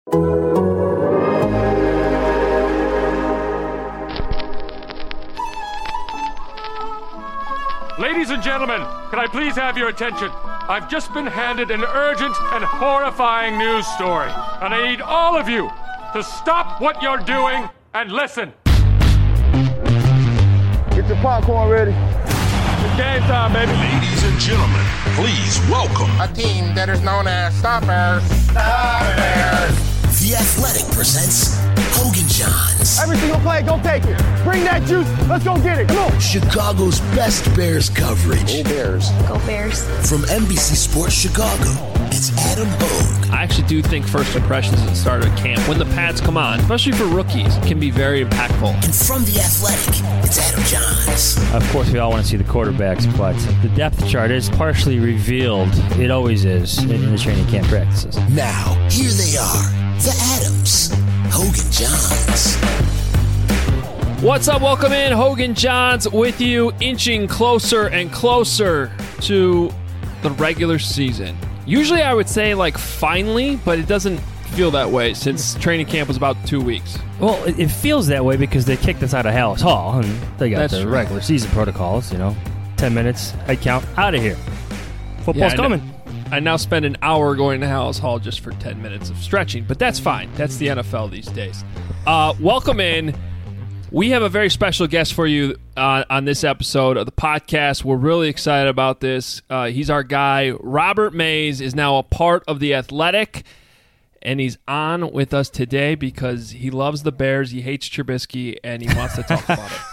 Ladies and gentlemen, can I please have your attention? I've just been handed an urgent and horrifying news story, and I need all of you to stop what you're doing and listen. Get your popcorn ready. It's game time, baby. Ladies and gentlemen, please welcome A team that is known as Stoppers. The Athletic presents Hogan Johns, Every single play, go take it. Bring that juice. Let's go get it. Come on. Chicago's best Bears coverage. Go Bears. Go Bears. From NBC Sports Chicago, it's Adam Hogue. I actually do think first impressions at the start of camp, when the pads come on, especially for rookies, can be very impactful. And from The Athletic, it's Adam Johns. Of course, we all want to see the quarterbacks, but the depth chart is partially revealed. It always is in the training camp practices. Now, here they are, the Adams, Hogan Johns. What's up? Welcome in. Hogan Johns with you, inching closer and closer to the regular season. Usually I would say like finally, but it doesn't feel that way since training camp was about 2 weeks. Well, it feels that way because they kicked us out of Hallis Hall, and they got That's the true. regular season protocols, 10 minutes, head count, out of here. Football's coming. I now spend an hour going to Hallis Hall just for 10 minutes of stretching, but that's fine. That's the NFL these days. Welcome in. We have a very special guest for you on this episode of the podcast. We're really excited about this. He's our guy. Robert Mays is now a part of The Athletic, and he's on with us today because he loves the Bears, he hates Trubisky, and he wants to talk about it.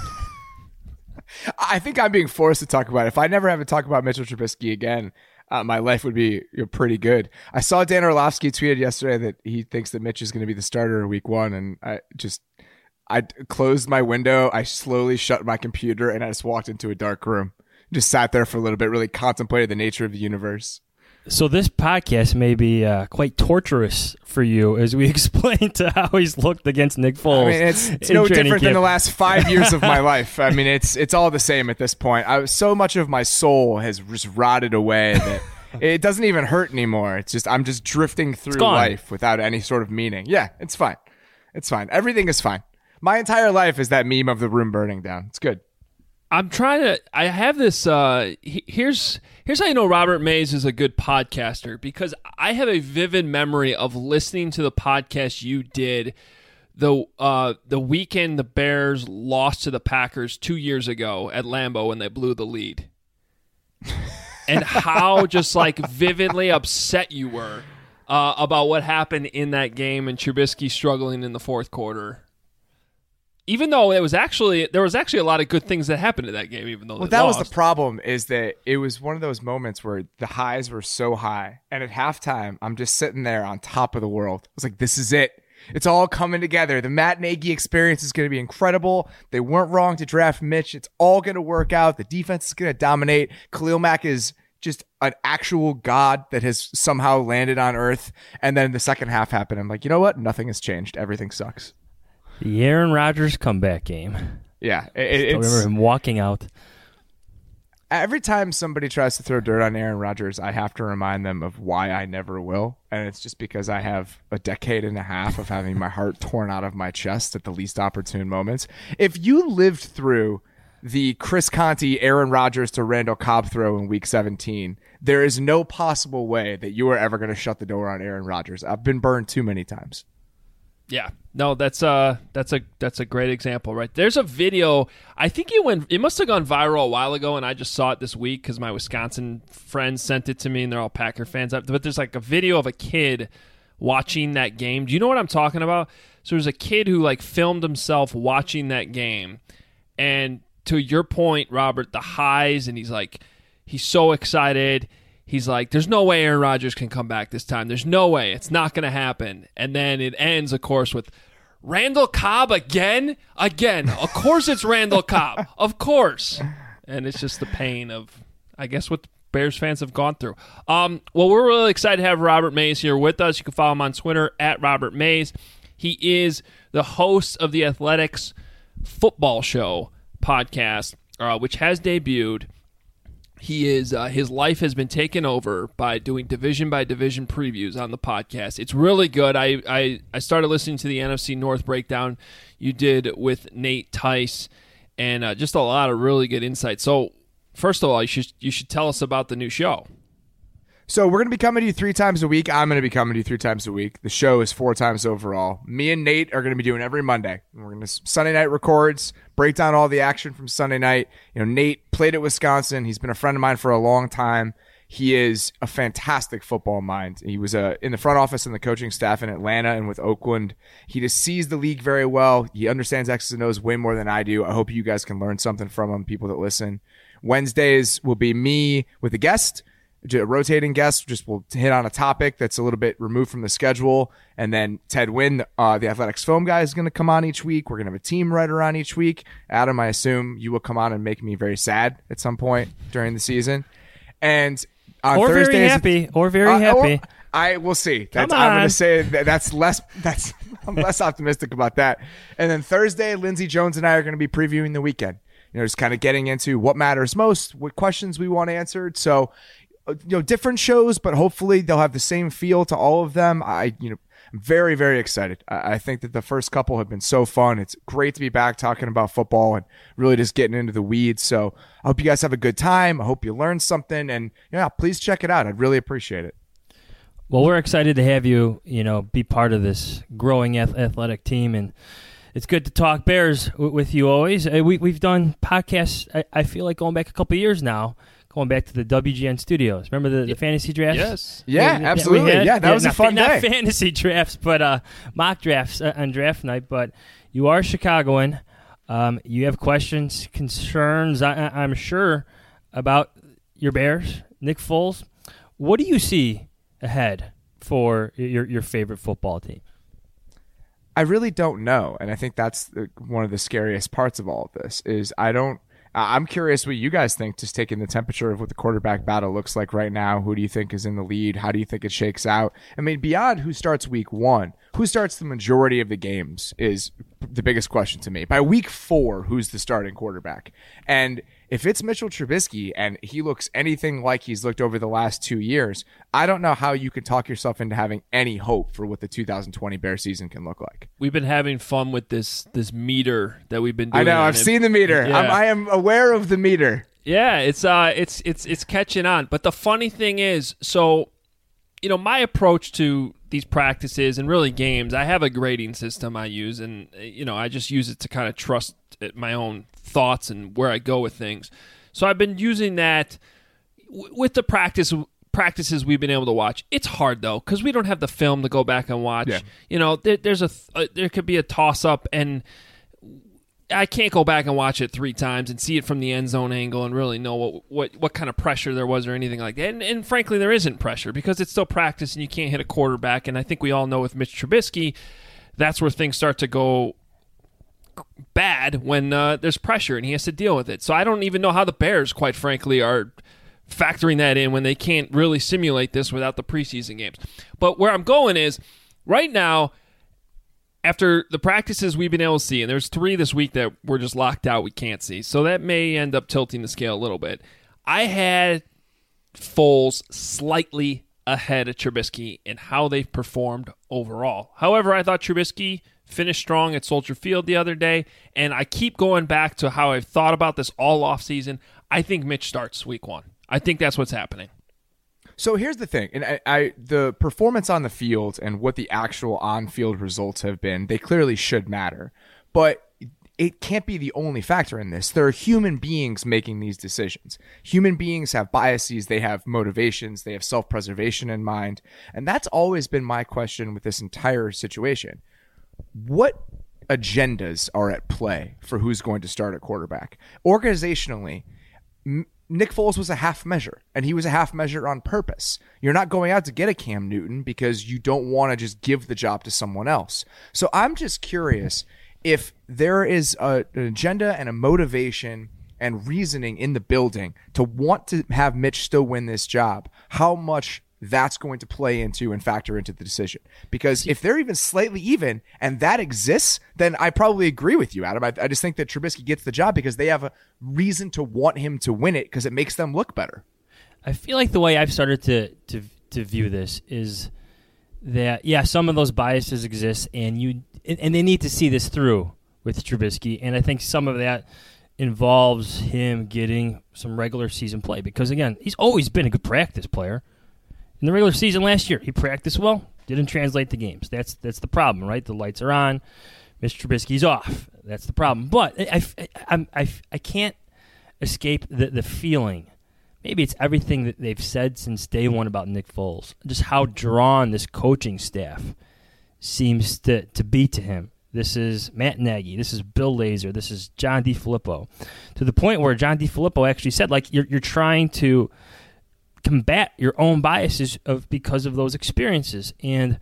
I think I'm being forced to talk about it. If I never have to talk about Mitchell Trubisky again, my life would be pretty good. I saw Dan Orlovsky tweeted yesterday that he thinks that Mitch is going to be the starter in week one, and I closed my window, I slowly shut my computer, and I just walked into a dark room. Just sat there for a little bit, really contemplated the nature of the universe. So this podcast may be quite torturous for you as we explain to how he's looked against Nick Foles. I mean, it's no different than the last 5 years of my life. I mean, it's all the same at this point. So much of my soul has just rotted away that it doesn't even hurt anymore. It's just I'm just drifting through life without any sort of meaning. Yeah, it's fine. It's fine. Everything is fine. My entire life is that meme of the room burning down. It's good. I have this, here's how you know Robert Mays is a good podcaster, because I have a vivid memory of listening to the podcast you did the weekend the Bears lost to the Packers 2 years ago at Lambeau when they blew the lead. And how just like vividly upset you were about what happened in that game and Trubisky struggling in the fourth quarter. Even though there was actually a lot of good things that happened in that game, even though that was the problem, is that it was one of those moments where the highs were so high, and at halftime, I'm just sitting there on top of the world. I was like, this is it. It's all coming together. The Matt Nagy experience is going to be incredible. They weren't wrong to draft Mitch. It's all going to work out. The defense is going to dominate. Khalil Mack is just an actual god that has somehow landed on earth. And then the second half happened. I'm like, you know what? Nothing has changed. Everything sucks. The Aaron Rodgers comeback game. Yeah. I remember him walking out. Every time somebody tries to throw dirt on Aaron Rodgers, I have to remind them of why I never will. And it's just because I have a decade and a half of having my heart torn out of my chest at the least opportune moments. If you lived through the Chris Conte, Aaron Rodgers to Randall Cobb throw in week 17, there is no possible way that you are ever going to shut the door on Aaron Rodgers. I've been burned too many times. Yeah, no, that's a great example, right? There's a video. I think it must have gone viral a while ago, and I just saw it this week because my Wisconsin friends sent it to me, and they're all Packer fans. But there's like a video of a kid watching that game. Do you know what I'm talking about? So there's a kid who like filmed himself watching that game, and to your point, Robert, the highs, and he's so excited. He's like, there's no way Aaron Rodgers can come back this time. There's no way. It's not going to happen. And then it ends, of course, with Randall Cobb again. Of course it's Randall Cobb. Of course. And it's just the pain of, I guess, what the Bears fans have gone through. Well, we're really excited to have Robert Mays here with us. You can follow him on Twitter at Robert Mays. He is the host of the Athletics Football Show podcast, which has debuted. He is his life has been taken over by doing division by division previews on the podcast. It's really good. I started listening to the NFC North breakdown you did with Nate Tice, and just a lot of really good insight. So first of all, you should tell us about the new show. So we're going to be coming to you 3 times a week. I'm going to be coming to you 3 times a week. The show is 4 times overall. Me and Nate are going to be doing every Monday. We're going to Sunday night records, break down all the action from Sunday night. Nate played at Wisconsin. He's been a friend of mine for a long time. He is a fantastic football mind. He was in the front office and the coaching staff in Atlanta and with Oakland. He just sees the league very well. He understands X's and O's way more than I do. I hope you guys can learn something from him, people that listen. Wednesdays will be me with a guest. A rotating guest, just will hit on a topic that's a little bit removed from the schedule. And then Ted Wynn, the Athletics film guy, is going to come on each week. We're going to have a team writer on each week. Adam, I assume you will come on and make me very sad at some point during the season. And on or Thursdays, very happy, or very happy. I will see. Come I'm going on. to say I'm less optimistic about that. And then Thursday, Lindsey Jones and I are going to be previewing the weekend. Just kind of getting into what matters most, what questions we want answered. So, different shows, but hopefully they'll have the same feel to all of them. I'm very, very excited. I think that the first couple have been so fun. It's great to be back talking about football and really just getting into the weeds. So I hope you guys have a good time. I hope you learned something, and please check it out. I'd really appreciate it. Well, we're excited to have you, be part of this growing athletic team, and it's good to talk Bears with you always. We've done podcasts, I feel like going back a couple of years now, going back to the WGN studios. Remember the fantasy drafts? Yes. Yeah, absolutely. That was a fun day. Not fantasy drafts, but mock drafts on draft night. But you are a Chicagoan. You have questions, concerns, I'm sure, about your Bears, Nick Foles. What do you see ahead for your favorite football team? I really don't know, and I think that's one of the scariest parts of all of this is I'm curious what you guys think, just taking the temperature of what the quarterback battle looks like right now. Who do you think is in the lead? How do you think it shakes out? I mean, beyond who starts week 1, who starts the majority of the games is the biggest question to me. By week 4, who's the starting quarterback? And if it's Mitchell Trubisky and he looks anything like he's looked over the last 2 years, I don't know how you can talk yourself into having any hope for what the 2020 Bear season can look like. We've been having fun with this meter that we've been doing. I know. I've seen the meter. Yeah. I am aware of the meter. Yeah, it's catching on. But the funny thing is, so my approach to these practices and really games, I have a grading system I use, and I just use it to kind of trust my own thoughts and where I go with things. So I've been using that with the practices we've been able to watch. It's hard though because we don't have the film to go back and watch. Yeah. There could be a toss up, and I can't go back and watch it 3 times and see it from the end zone angle and really know what kind of pressure there was or anything like that. And frankly, there isn't pressure because it's still practice and you can't hit a quarterback. And I think we all know with Mitch Trubisky, that's where things start to go bad when there's pressure and he has to deal with it. So I don't even know how the Bears, quite frankly, are factoring that in when they can't really simulate this without the preseason games. But where I'm going is right now, after the practices we've been able to see, and there's 3 this week that we're just locked out, we can't see. So that may end up tilting the scale a little bit. I had Foles slightly ahead of Trubisky in how they've performed overall. However, I thought Trubisky finished strong at Soldier Field the other day, and I keep going back to how I've thought about this all offseason. I think Mitch starts week 1. I think that's what's happening. So here's the thing, and the performance on the field and what the actual on-field results have been, they clearly should matter. But it can't be the only factor in this. There are human beings making these decisions. Human beings have biases, they have motivations, they have self-preservation in mind. And that's always been my question with this entire situation. What agendas are at play for who's going to start at quarterback? Organizationally, Nick Foles was a half measure, and he was a half measure on purpose. You're not going out to get a Cam Newton because you don't want to just give the job to someone else. So I'm just curious if there is an agenda and a motivation and reasoning in the building to want to have Mitch still win this job, how much that's going to play into and factor into the decision. Because if they're even slightly even and that exists, then I probably agree with you, Adam. I just think that Trubisky gets the job because they have a reason to want him to win it because it makes them look better. I feel like the way I've started to view this is that, yeah, some of those biases exist, and they need to see this through with Trubisky, and I think some of that involves him getting some regular season play because, again, he's always been a good practice player. In the regular season last year, he practiced well, didn't translate to games. That's the problem, right? The lights are on, Mr. Trubisky's off. That's the problem. But I can't escape the feeling. Maybe it's everything that they've said since day one about Nick Foles, just how drawn this coaching staff seems to be to him. This is Matt Nagy. This is Bill Lazor. This is John DeFilippo. To the point where John DeFilippo actually said, like, you're trying to combat your own biases because of those experiences. And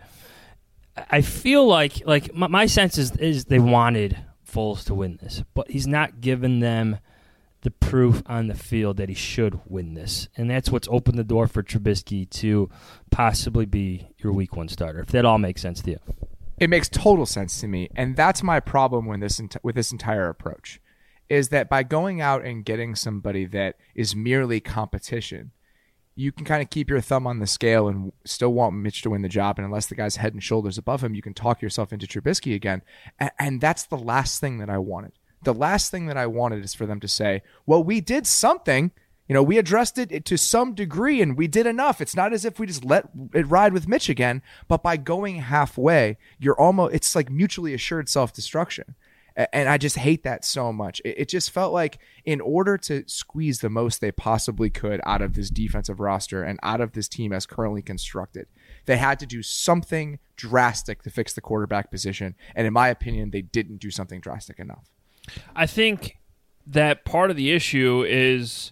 I feel like my sense is they wanted Foles to win this, but he's not given them the proof on the field that he should win this. And that's what's opened the door for Trubisky to possibly be your week 1 starter, if that all makes sense to you. It makes total sense to me, and that's my problem with this entire approach, is that by going out and getting somebody that is merely competition, you can kind of keep your thumb on the scale and still want Mitch to win the job, and unless the guy's head and shoulders above him, you can talk yourself into Trubisky again, and that's the last thing that I wanted. The last thing that I wanted is for them to say, well, we did something. We addressed it to some degree and we did enough. It's not as if we just let it ride with Mitch again, but by going halfway, it's like mutually assured self-destruction. And I just hate that so much. It just felt like in order to squeeze the most they possibly could out of this defensive roster and out of this team as currently constructed, they had to do something drastic to fix the quarterback position. And in my opinion, they didn't do something drastic enough. I think that part of the issue is,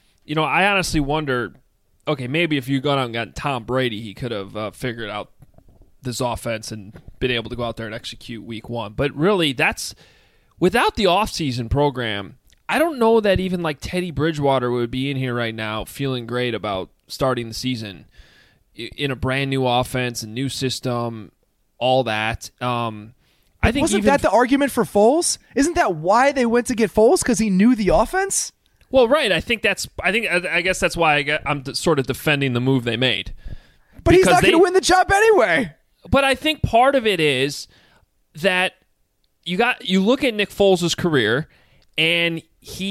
I honestly wonder, okay, maybe if you gone out and got Tom Brady, he could have figured out this offense and been able to go out there and execute week 1. But really, that's without the offseason program, I don't know that even like Teddy Bridgewater would be in here right now feeling great about starting the season in a brand new offense, a new system, all that. I think wasn't that the argument for Foles? Isn't that why they went to get Foles? Because he knew the offense? Well, right. I guess that's why I'm sort of defending the move they made. But he's not going to win the job anyway. But I think part of it is that you look at Nick Foles' career, and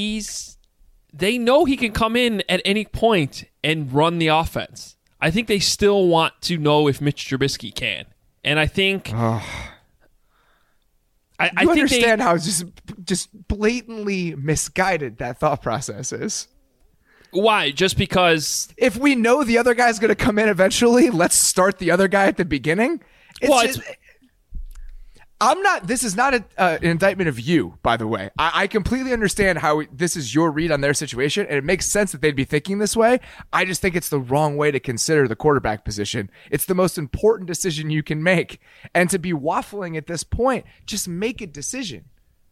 they know he can come in at any point and run the offense. I think they still want to know if Mitch Trubisky can, and I think. I think understand how just blatantly misguided that thought process is. Why? Just because if we know the other guy's going to come in eventually, let's start the other guy at the beginning. This is not an indictment of you, by the way. I completely understand how this is your read on their situation, and it makes sense that they'd be thinking this way. I just think it's the wrong way to consider the quarterback position. It's the most important decision you can make. And to be waffling at this point, just make a decision.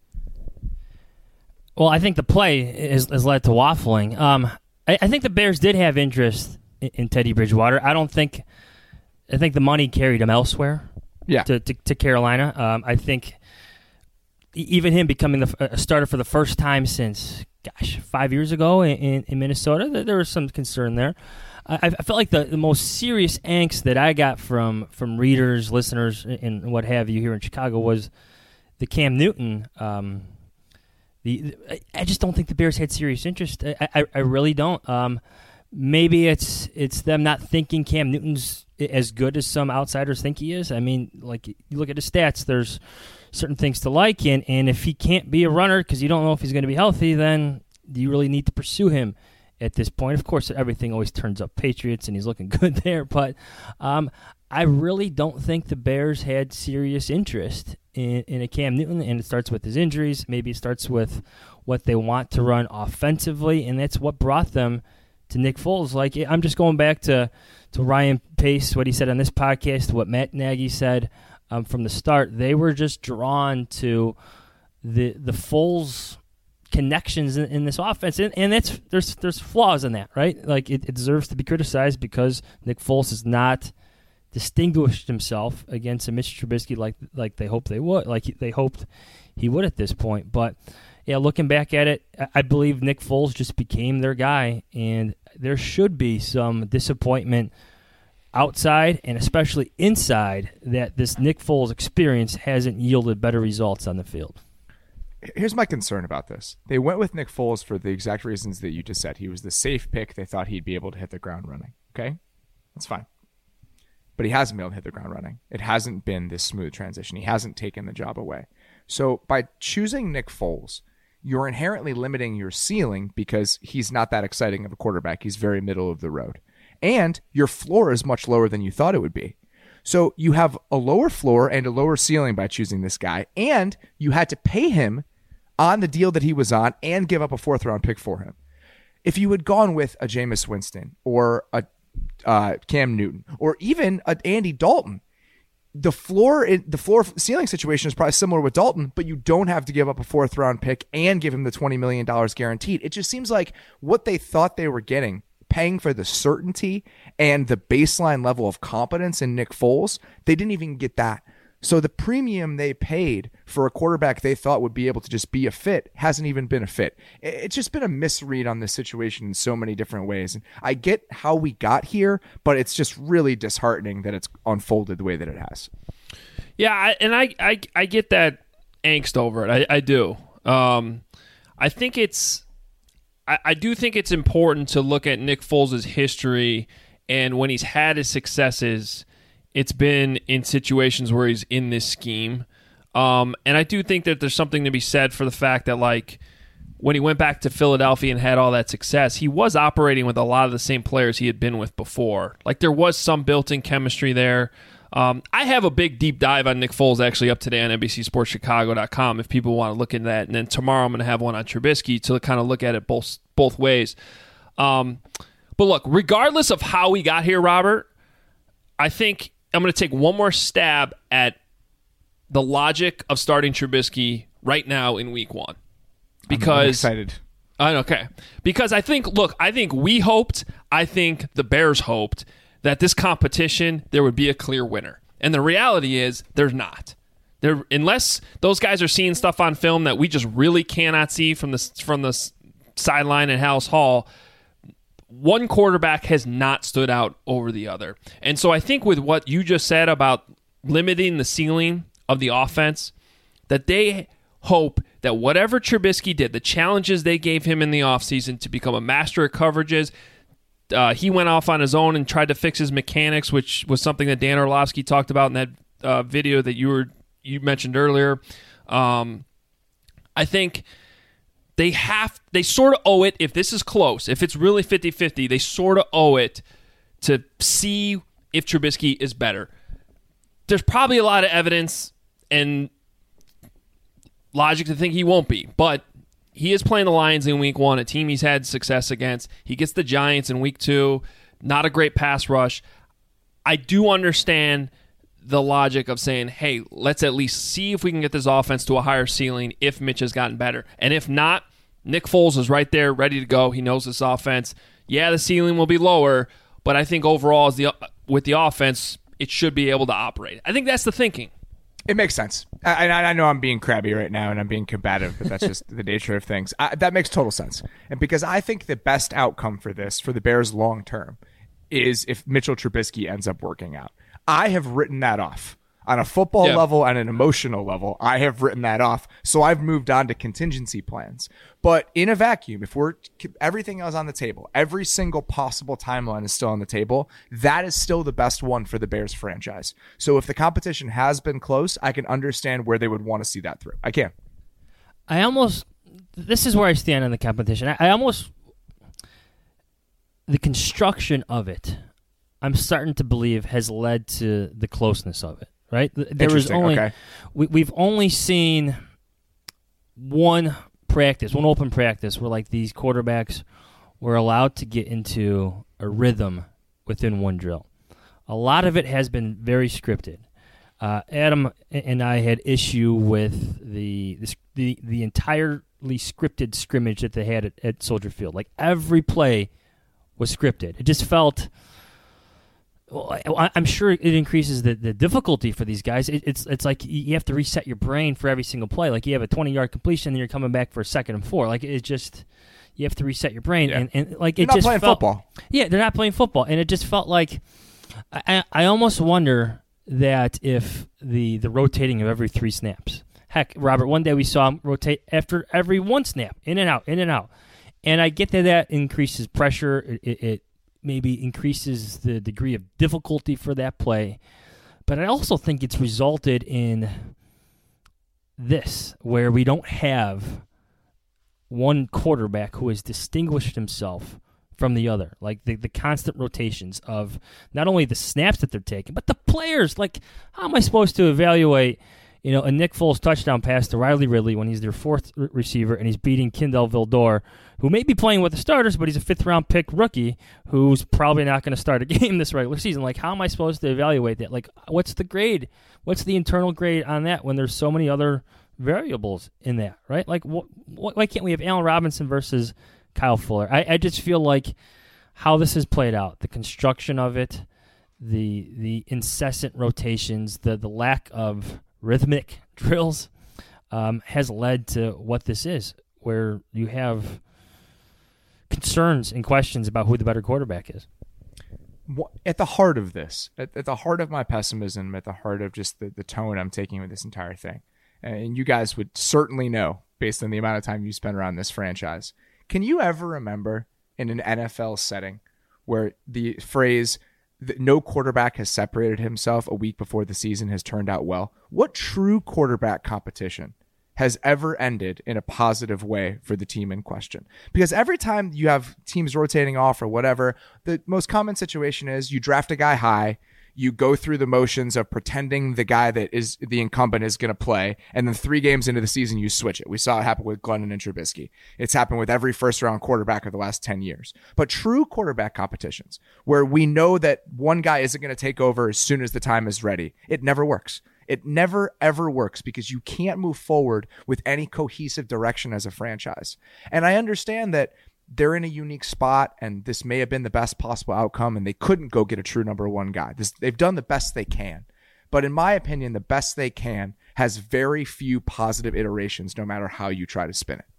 Well, I think the play has led to waffling. I think the Bears did have interest in Teddy Bridgewater. I think the money carried him elsewhere. Yeah. To Carolina. I think even him becoming a starter for the first time since, 5 years ago in Minnesota, there was some concern there. I felt like the most serious angst that I got from readers, listeners, and what have you here in Chicago was the Cam Newton. I just don't think the Bears had serious interest. I really don't. Maybe it's them not thinking Cam Newton's as good as some outsiders think he is. I mean, like, you look at his stats, there's certain things to like, and if he can't be a runner because you don't know if he's going to be healthy, then do you really need to pursue him at this point? Of course, everything always turns up Patriots, and he's looking good there, but I really don't think the Bears had serious interest in a Cam Newton, and it starts with his injuries. Maybe it starts with what they want to run offensively, and that's what brought them to Nick Foles. Like, I'm just going back to Ryan Pace, what he said on this podcast, what Matt Nagy said from the start. They were just drawn to the Foles connections in this offense, and there's flaws in that, right? Like it deserves to be criticized because Nick Foles has not distinguished himself against a Mitch Trubisky like they hoped they would, they hoped he would at this point. But yeah, looking back at it, I believe Nick Foles just became their guy, and there should be some disappointment outside and especially inside that this Nick Foles experience hasn't yielded better results on the field. Here's my concern about this. They went with Nick Foles for the exact reasons that you just said. He was the safe pick. They thought he'd be able to hit the ground running. Okay? That's fine. But he hasn't been able to hit the ground running. It hasn't been this smooth transition. He hasn't taken the job away. So by choosing Nick Foles, you're inherently limiting your ceiling because he's not that exciting of a quarterback. He's very middle of the road. And your floor is much lower than you thought it would be. So you have a lower floor and a lower ceiling by choosing this guy, and you had to pay him on the deal that he was on and give up a 4th-round pick for him. If you had gone with a Jameis Winston or a Cam Newton or even an Andy Dalton, the floor ceiling situation is probably similar with Dalton, but you don't have to give up a 4th-round pick and give him the $20 million guaranteed. It just seems like what they thought they were getting, paying for the certainty and the baseline level of competence in Nick Foles, they didn't even get that. So the premium they paid for a quarterback they thought would be able to just be a fit hasn't even been a fit. It's just been a misread on this situation in so many different ways. And I get how we got here, but it's just really disheartening that it's unfolded the way that it has. Yeah, I get that angst over it. I do. I think I do think it's important to look at Nick Foles' history, and when he's had his successes, it's been in situations where he's in this scheme. And I do think that there's something to be said for the fact that, like, when he went back to Philadelphia and had all that success, he was operating with a lot of the same players he had been with before. Like, there was some built-in chemistry there. I have a big deep dive on Nick Foles actually up today on NBCSportsChicago.com if people want to look into that. And then tomorrow I'm going to have one on Trubisky to kind of look at it both ways. But look, regardless of how we got here, Robert, I think I'm going to take one more stab at the logic of starting Trubisky right now in week 1. Because I'm excited. Okay. Because I think we hoped, I think the Bears hoped that this competition, there would be a clear winner. And the reality is there's not. Unless those guys are seeing stuff on film that we just really cannot see from the sideline at Hallis Hall, one quarterback has not stood out over the other. And so I think with what you just said about limiting the ceiling of the offense, that they hope that whatever Trubisky did, the challenges they gave him in the offseason to become a master at coverages, he went off on his own and tried to fix his mechanics, which was something that Dan Orlovsky talked about in that video that you mentioned earlier. I think they sort of owe it, if this is close, if it's really 50-50, they sort of owe it to see if Trubisky is better. There's probably a lot of evidence and logic to think he won't be, but he is playing the Lions in week 1, a team he's had success against. He gets the Giants in week 2, not a great pass rush. I do understand the logic of saying, hey, let's at least see if we can get this offense to a higher ceiling if Mitch has gotten better. And if not, Nick Foles is right there, ready to go. He knows this offense. Yeah, the ceiling will be lower, but I think overall, with the offense, it should be able to operate. I think that's the thinking. It makes sense. I know I'm being crabby right now and I'm being combative, but that's just the nature of things. That makes total sense. And because I think the best outcome for this, for the Bears long term, is if Mitchell Trubisky ends up working out. I have written that off. On a football level and an emotional level, I have written that off. So I've moved on to contingency plans. But in a vacuum, if everything else on the table, every single possible timeline is still on the table, that is still the best one for the Bears franchise. So if the competition has been close, I can understand where they would want to see that through. I can. This is where I stand on the competition. The construction of it, I'm starting to believe has led to the closeness of it. Right? There was only we've only seen one open practice where like these quarterbacks were allowed to get into a rhythm within one drill. A lot of it has been very scripted. Adam and I had issue with the entirely scripted scrimmage that they had at Soldier Field. Like, every play was scripted. It just felt. Well, I'm sure it increases the difficulty for these guys. It's like you have to reset your brain for every single play. Like, you have a 20-yard completion, and you're coming back for a 2nd and 4. Like, it just, you have to reset your brain. Yeah. And like, they're it not just playing felt, football. Yeah, they're not playing football, and it just felt like I almost wonder that if the rotating of every 3 snaps. Heck, Robert, one day we saw him rotate after every 1 snap, in and out, in and out. And I get that increases pressure. It maybe increases the degree of difficulty for that play. But I also think it's resulted in this, where we don't have one quarterback who has distinguished himself from the other. Like, the constant rotations of not only the snaps that they're taking, but the players. Like, how am I supposed to evaluate, a Nick Foles touchdown pass to Riley Ridley when he's their 4th receiver and he's beating Kendall Vildor, who may be playing with the starters, but he's a 5th-round pick rookie who's probably not going to start a game this regular season. Like, how am I supposed to evaluate that? Like, what's the grade? What's the internal grade on that when there's so many other variables in that, right? Like, why can't we have Allen Robinson versus Kyle Fuller? I just feel like how this has played out, the construction of it, the incessant rotations, the lack of rhythmic drills has led to what this is, where you have concerns and questions about who the better quarterback is. At the heart of this, at the heart of my pessimism, at the heart of just the tone I'm taking with this entire thing, and you guys would certainly know based on the amount of time you spent around this franchise, can you ever remember in an NFL setting where the phrase that no quarterback has separated himself a week before the season has turned out well? What true quarterback competition has ever ended in a positive way for the team in question? Because every time you have teams rotating off or whatever, the most common situation is you draft a guy high, you go through the motions of pretending the guy that is the incumbent is going to play, and then 3 games into the season, you switch it. We saw it happen with Glennon and Trubisky. It's happened with every first-round quarterback of the last 10 years. But true quarterback competitions, where we know that one guy isn't going to take over as soon as the time is ready, it never works. It never, ever works because you can't move forward with any cohesive direction as a franchise. And I understand that they're in a unique spot, and this may have been the best possible outcome, and they couldn't go get a true number 1 guy. They've done the best they can. But in my opinion, the best they can has very few positive iterations, no matter how you try to spin it.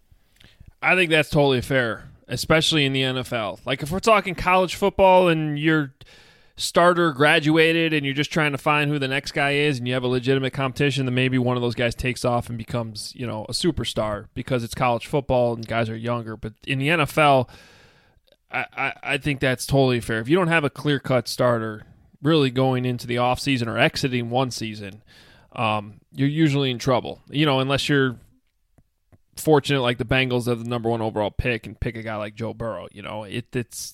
I think that's totally fair, especially in the NFL. Like, if we're talking college football and your starter graduated and you're just trying to find who the next guy is and you have a legitimate competition, then maybe one of those guys takes off and becomes, a superstar because it's college football and guys are younger. But in the NFL, I think that's totally fair. If you don't have a clear-cut starter really going into the offseason or exiting one season, you're usually in trouble, unless you're fortunate like the Bengals have the number 1 overall pick and pick a guy like Joe Burrow. It's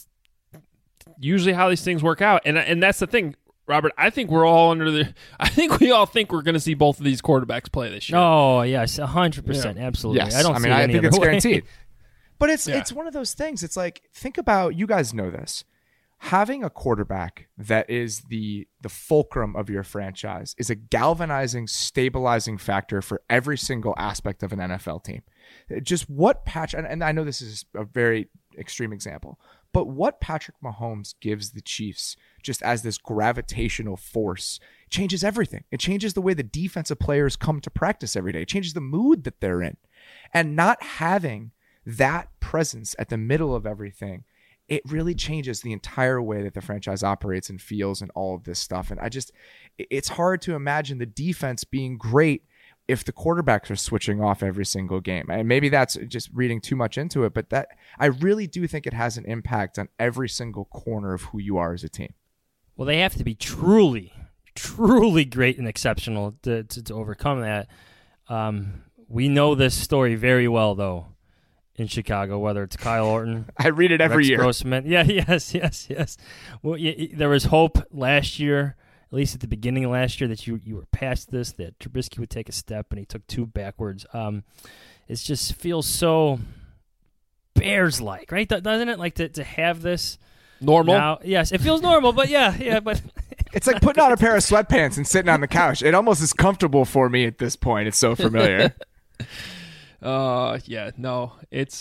usually how these things work out. And that's the thing, Robert. I think we're all I think we all think we're going to see both of these quarterbacks play this year. Oh, yes, 100%. Yeah. Absolutely. Yes. I think it's guaranteed. But Yeah. it's one of those things. It's like, think about, you guys know this. Having a quarterback that is the fulcrum of your franchise is a galvanizing, stabilizing factor for every single aspect of an NFL team. Just what and I know this is a very extreme example, but what Patrick Mahomes gives the Chiefs just as this gravitational force changes everything. It changes the way the defensive players come to practice every day. It changes the mood that they're in. And not having that presence at the middle of everything, it really changes the entire way that the franchise operates and feels and all of this stuff. And it's hard to imagine the defense being great if the quarterbacks are switching off every single game. And maybe that's just reading too much into it, but that I really do think it has an impact on every single corner of who you are as a team. Well, they have to be truly, truly great and exceptional to overcome that. We know this story very well, though, in Chicago, whether it's Kyle Orton. I read it every Rex year. Grossman. Yeah, yes. Well, there was hope last year, at least at the beginning of last year, that you were past this, that Trubisky would take a step, and he took 2 backwards. It just feels so Bears-like, right? Doesn't it? Like to have this normal. now, yes, it feels normal, but yeah, but It's like putting on a pair of sweatpants and sitting on the couch. It almost is comfortable for me at this point. It's so familiar. Yeah, no, it's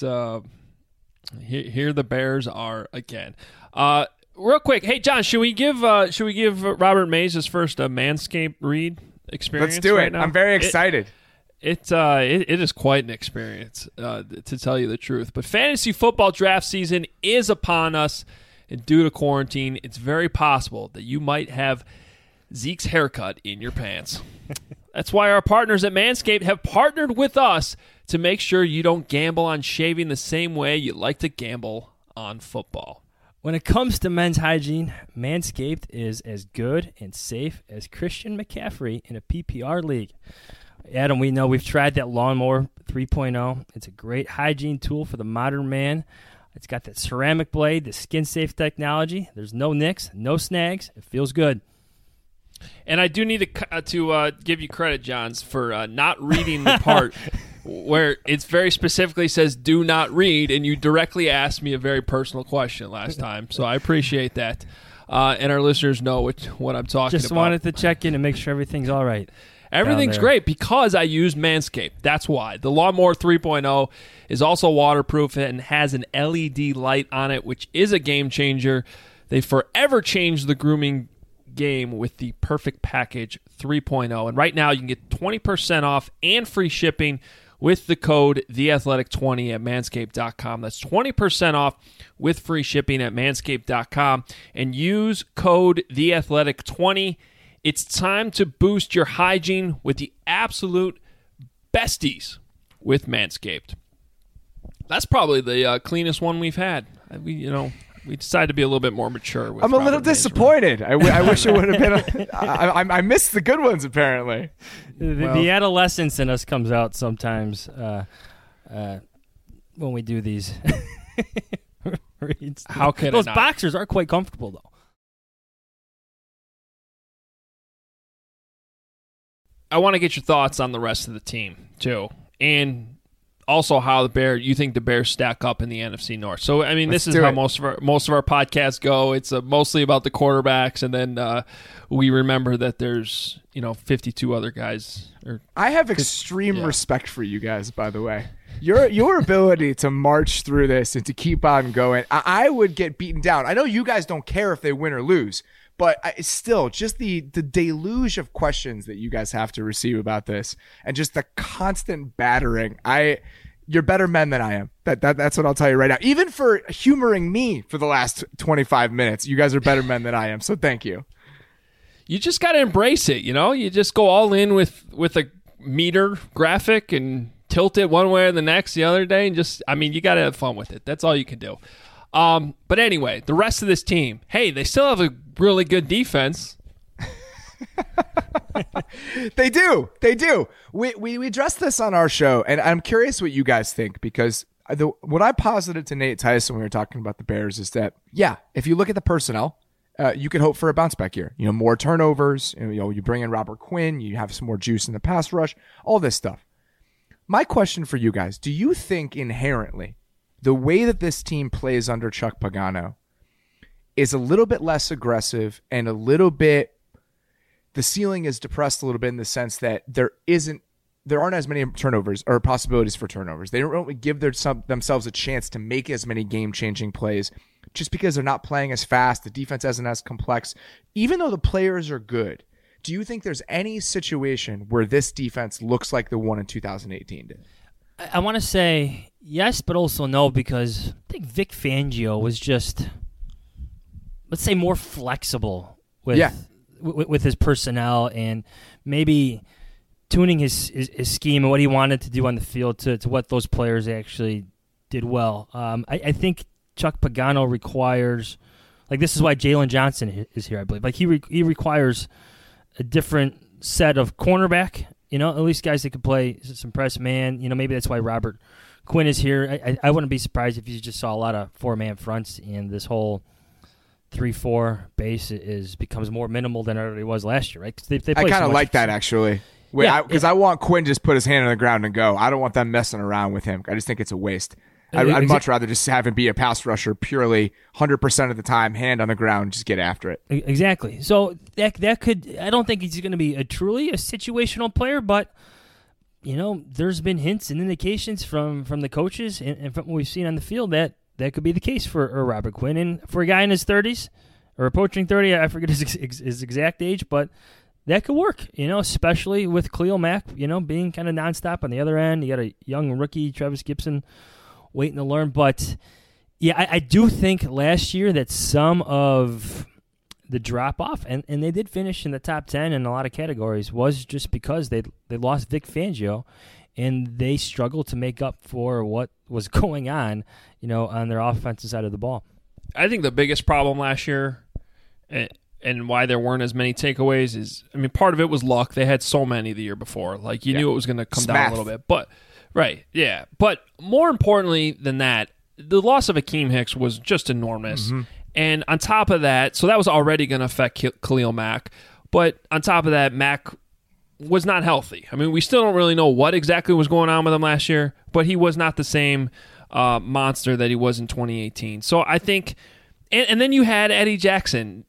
here the Bears are again. Real quick, hey John, should we give Robert Mays his first Manscaped read experience? Let's do right it. now? I'm very excited. It is quite an experience, to tell you the truth. But fantasy football draft season is upon us, and due to quarantine, it's very possible that you might have Zeke's haircut in your pants. That's why our partners at Manscaped have partnered with us to make sure you don't gamble on shaving the same way you like to gamble on football. When it comes to men's hygiene, Manscaped is as good and safe as Christian McCaffrey in a PPR league. Adam, we know we've tried that Lawnmower 3.0. It's a great hygiene tool for the modern man. It's got that ceramic blade, the skin-safe technology. There's no nicks, no snags. It feels good. And I do need to give you credit, Johns, for not reading the part where it very specifically says do not read, and you directly asked me a very personal question last time. So I appreciate that. And our listeners know what I'm talking about. Just wanted to check in and make sure everything's all right. Everything's great because I use Manscaped. That's why. The Lawnmower 3.0 is also waterproof and has an LED light on it, which is a game changer. They forever changed the grooming game with the Perfect Package 3.0. And right now you can get 20% off and free shipping with the code TheAthletic20 at Manscaped.com. That's 20% off with free shipping at Manscaped.com. And use code TheAthletic20. It's time to boost your hygiene with the absolute besties with Manscaped. That's probably the cleanest one we've had. We decided to be a little bit more mature. With I'm a little disappointed. I wish it would have been. I missed the good ones, apparently. The adolescence in us comes out sometimes when we do these reads. How can those boxers are quite comfortable, though. I want to get your thoughts on the rest of the team, too. And also how you think the Bears stack up in the NFC North. So, I mean, this is how most of our podcasts go. It's mostly about the quarterbacks, and then we remember that there's 52 other guys. I have extreme respect for you guys, by the way. Your ability to march through this and to keep on going. I would get beaten down. I know you guys don't care if they win or lose, but still, just the deluge of questions that you guys have to receive about this, and just the constant battering. You're better men than I am. That's what I'll tell you right now. Even for humoring me for the last 25 minutes, you guys are better men than I am. So thank you. You just got to embrace it. You just go all in with a meter graphic and tilt it one way or the next the other day, and you got to have fun with it. That's all you can do. But anyway, the rest of this team, hey, they still have a really good defense. They do. We addressed this on our show, and I'm curious what you guys think, because what I posited to Nate Tyson when we were talking about the Bears is that, if you look at the personnel, you could hope for a bounce back year. More turnovers. You bring in Robert Quinn. You have some more juice in the pass rush. All this stuff. My question for you guys: do you think inherently the way that this team plays under Chuck Pagano is a little bit less aggressive and a little bit, the ceiling is depressed a little bit in the sense that there aren't as many turnovers or possibilities for turnovers? They don't really give themselves a chance to make as many game-changing plays just because they're not playing as fast. The defense isn't as complex. Even though the players are good, do you think there's any situation where this defense looks like the one in 2018 did? I want to say yes, but also no, because I think Vic Fangio was just, let's say, more flexible with his personnel and maybe tuning his scheme and what he wanted to do on the field to what those players actually did well. I think Chuck Pagano requires, this is why Jalen Johnson is here, I believe. He requires a different set of cornerback. At least guys that could play some press man. Maybe that's why Robert Quinn is here. I wouldn't be surprised if you just saw a lot of four-man fronts, and this whole 3-4 base becomes more minimal than it already was last year, right? They I kind of like that, actually. Because I want Quinn to just put his hand on the ground and go. I don't want them messing around with him. I just think it's a waste. I'd much rather just have him be a pass rusher purely 100% of the time, hand on the ground, just get after it. Exactly. So that could, I don't think he's going to be a situational player, but there's been hints and indications from the coaches and from what we've seen on the field that could be the case for Robert Quinn. And for a guy in his 30s or approaching 30, I forget his exact age, but that could work, especially with Khalil Mack, being kind of nonstop on the other end. You got a young rookie, Travis Gibson, waiting to learn. But, yeah, I do think last year that some of the drop-off, and they did finish in the top 10 in a lot of categories, was just because they lost Vic Fangio, and they struggled to make up for what was going on, on their offensive side of the ball. I think the biggest problem last year and why there weren't as many takeaways is, part of it was luck. They had so many the year before. Like, you knew it was going to come down a little bit. But, right, yeah. But more importantly than that, the loss of Akeem Hicks was just enormous. Mm-hmm. And on top of that, so that was already going to affect Khalil Mack. But on top of that, Mack was not healthy. We still don't really know what exactly was going on with him last year, but he was not the same monster that he was in 2018. So I think, and then you had Eddie Jackson.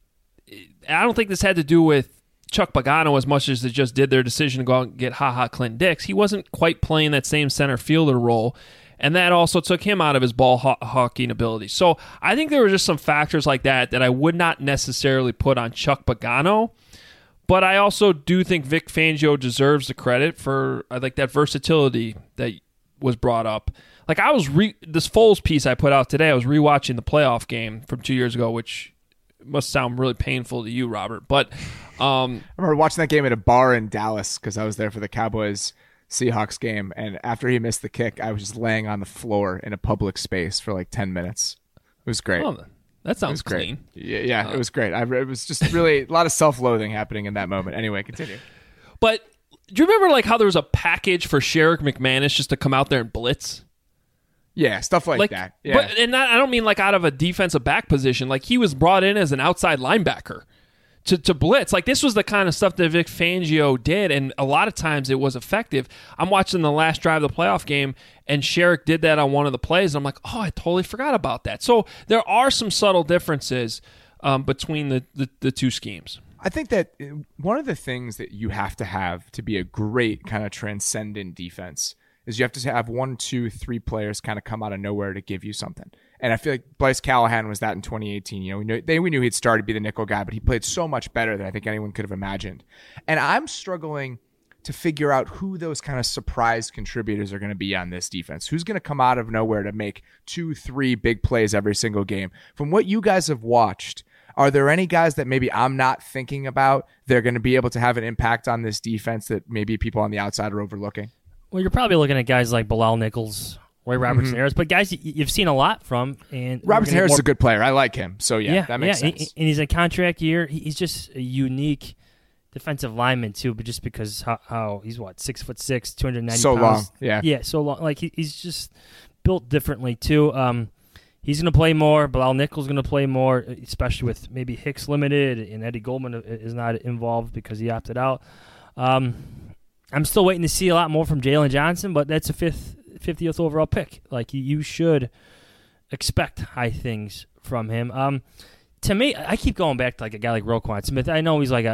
I don't think this had to do with Chuck Pagano as much as it just did their decision to go out and get Clinton Dix. He wasn't quite playing that same center fielder role, and that also took him out of his ball hawking ability. So I think there were just some factors like that I would not necessarily put on Chuck Pagano, but I also do think Vic Fangio deserves the credit for that versatility that was brought up. Like, I was this Foles piece I put out today, I was rewatching the playoff game from 2 years ago, which must sound really painful to you, Robert. But I remember watching that game at a bar in Dallas because I was there for the Cowboys-Seahawks game. And after he missed the kick, I was just laying on the floor in a public space for like 10 minutes. It was great. Oh, that sounds clean. Yeah, it was great. It was just really a lot of self-loathing happening in that moment. Anyway, continue. But do you remember how there was a package for Sherrick McManus just to come out there and blitz? Yeah, stuff like that. Yeah. But I don't mean out of a defensive back position. He was brought in as an outside linebacker to blitz. This was the kind of stuff that Vic Fangio did, and a lot of times it was effective. I'm watching the last drive of the playoff game, and Sherrick did that on one of the plays, and I'm like, oh, I totally forgot about that. So there are some subtle differences between the two schemes. I think that one of the things that you have to be a great kind of transcendent defense is you have to have 1, 2, 3 players kind of come out of nowhere to give you something. And I feel like Bryce Callahan was that in 2018. We knew he'd started to be the nickel guy, but he played so much better than I think anyone could have imagined. And I'm struggling to figure out who those kind of surprise contributors are going to be on this defense. Who's going to come out of nowhere to make 2, 3 big plays every single game? From what you guys have watched, are there any guys that maybe I'm not thinking about they're going to be able to have an impact on this defense that maybe people on the outside are overlooking? Well, you're probably looking at guys like Bilal Nichols, Roy Robertson Harris, but guys you've seen a lot from. And Robertson Harris is a good player. I like him. So, yeah that makes sense. And he's a contract year. He's just a unique defensive lineman, too, but just because how he's, 6'6", 290 so pounds. So long, Yeah, so long. He's just built differently, too. He's going to play more. Bilal Nichols is going to play more, especially with maybe Hicks limited, and Eddie Goldman is not involved because he opted out. I'm still waiting to see a lot more from Jalen Johnson, but that's a 50th overall pick. You should expect high things from him. To me, I keep going back to a guy like Roquan Smith. I know he's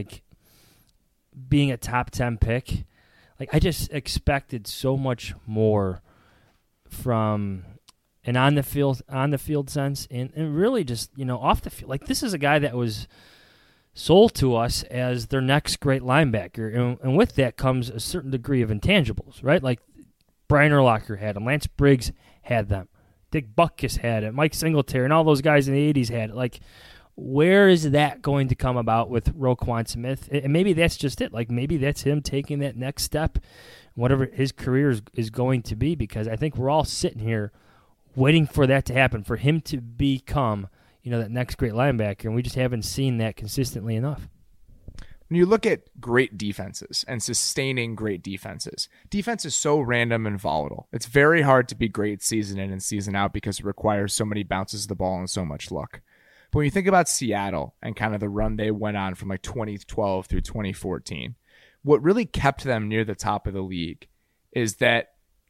being a top 10 pick. I just expected so much more from an on the field sense, and really just off the field. This is a guy that was sold to us as their next great linebacker, and with that comes a certain degree of intangibles, right? Brian Urlacher had them, Lance Briggs had them, Dick Butkus had it, Mike Singletary, and all those guys in the 80s had it. Where is that going to come about with Roquan Smith? And maybe that's just it. Maybe that's him taking that next step, whatever his career is going to be, because I think we're all sitting here waiting for that to happen, for him to become that next great linebacker, and we just haven't seen that consistently enough. When you look at great defenses and sustaining great defenses, defense is so random and volatile. It's very hard to be great season in and season out because it requires so many bounces of the ball and so much luck. But when you think about Seattle and kind of the run they went on from 2012 through 2014, what really kept them near the top of the league is that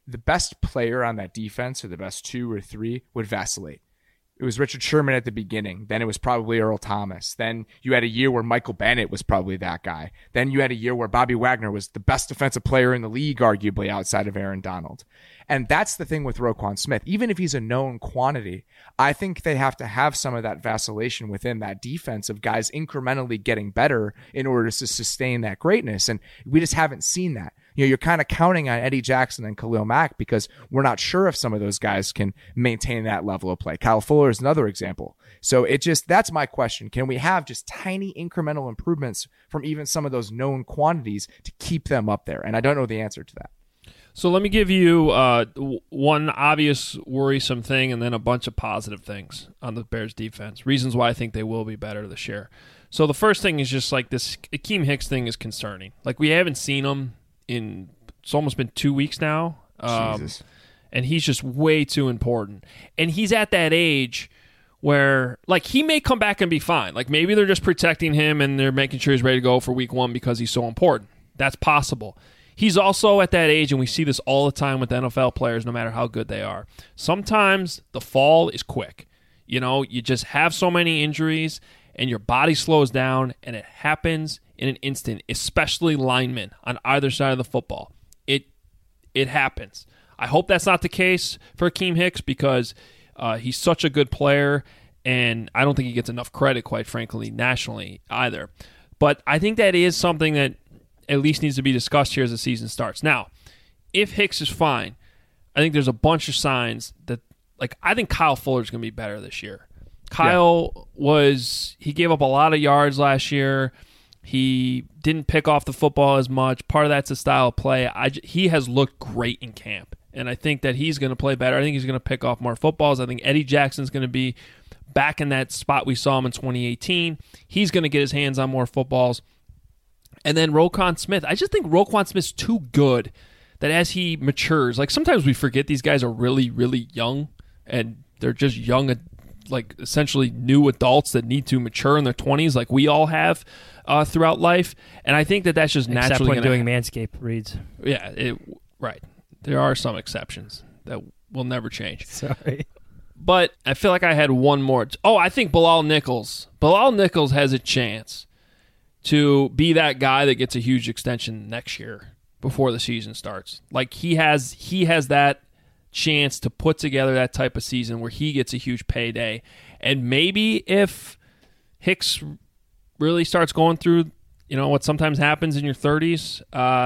the best player on that defense, or the best 2 or 3, would vacillate. It was Richard Sherman at the beginning. Then it was probably Earl Thomas. Then you had a year where Michael Bennett was probably that guy. Then you had a year where Bobby Wagner was the best defensive player in the league, arguably, outside of Aaron Donald. And that's the thing with Roquan Smith. Even if he's a known quantity, I think they have to have some of that vacillation within that defense of guys incrementally getting better in order to sustain that greatness. And we just haven't seen that. You're kind of counting on Eddie Jackson and Khalil Mack because we're not sure if some of those guys can maintain that level of play. Kyle Fuller is another example. So that's my question. Can we have just tiny incremental improvements from even some of those known quantities to keep them up there? And I don't know the answer to that. So let me give you one obvious worrisome thing and then a bunch of positive things on the Bears defense. Reasons why I think they will be better this year. So the first thing is just like this Akeem Hicks thing is concerning. Like we haven't seen him it's almost been 2 weeks now. Jesus. And he's just way too important. And he's at that age where like he may come back and be fine. Like maybe they're just protecting him and they're making sure he's ready to go for week 1 because he's so important. That's possible. He's also at that age, and we see this all the time with NFL players, no matter how good they are. Sometimes the fall is quick. You just have so many injuries, and your body slows down, and it happens in an instant, especially linemen on either side of the football. It happens. I hope that's not the case for Akeem Hicks because he's such a good player, and I don't think he gets enough credit, quite frankly, nationally either. But I think that is something that at least needs to be discussed here as the season starts. Now, if Hicks is fine, I think there's a bunch of signs that, like, I think Kyle Fuller is going to be better this year. Kyle he gave up a lot of yards last year. He didn't pick off the football as much. Part of that's a style of play. He has looked great in camp, and I think that he's going to play better. I think he's going to pick off more footballs. I think Eddie Jackson's going to be back in that spot we saw him in 2018. He's going to get his hands on more footballs. And then Roquan Smith. I just think Roquan Smith's too good that as he matures, like sometimes we forget these guys are really, really young, and they're just young, like essentially new adults that need to mature in their 20s like we all have throughout life. And I think that's just naturally except when doing Manscaped reads. Yeah, right. There are some exceptions that will never change. Sorry. But I feel like I had one more. I think Bilal Nichols. Bilal Nichols has a chance to be that guy that gets a huge extension next year before the season starts. Like he has that chance to put together that type of season where he gets a huge payday. And maybe if Hicks really starts going through, what sometimes happens in your 30s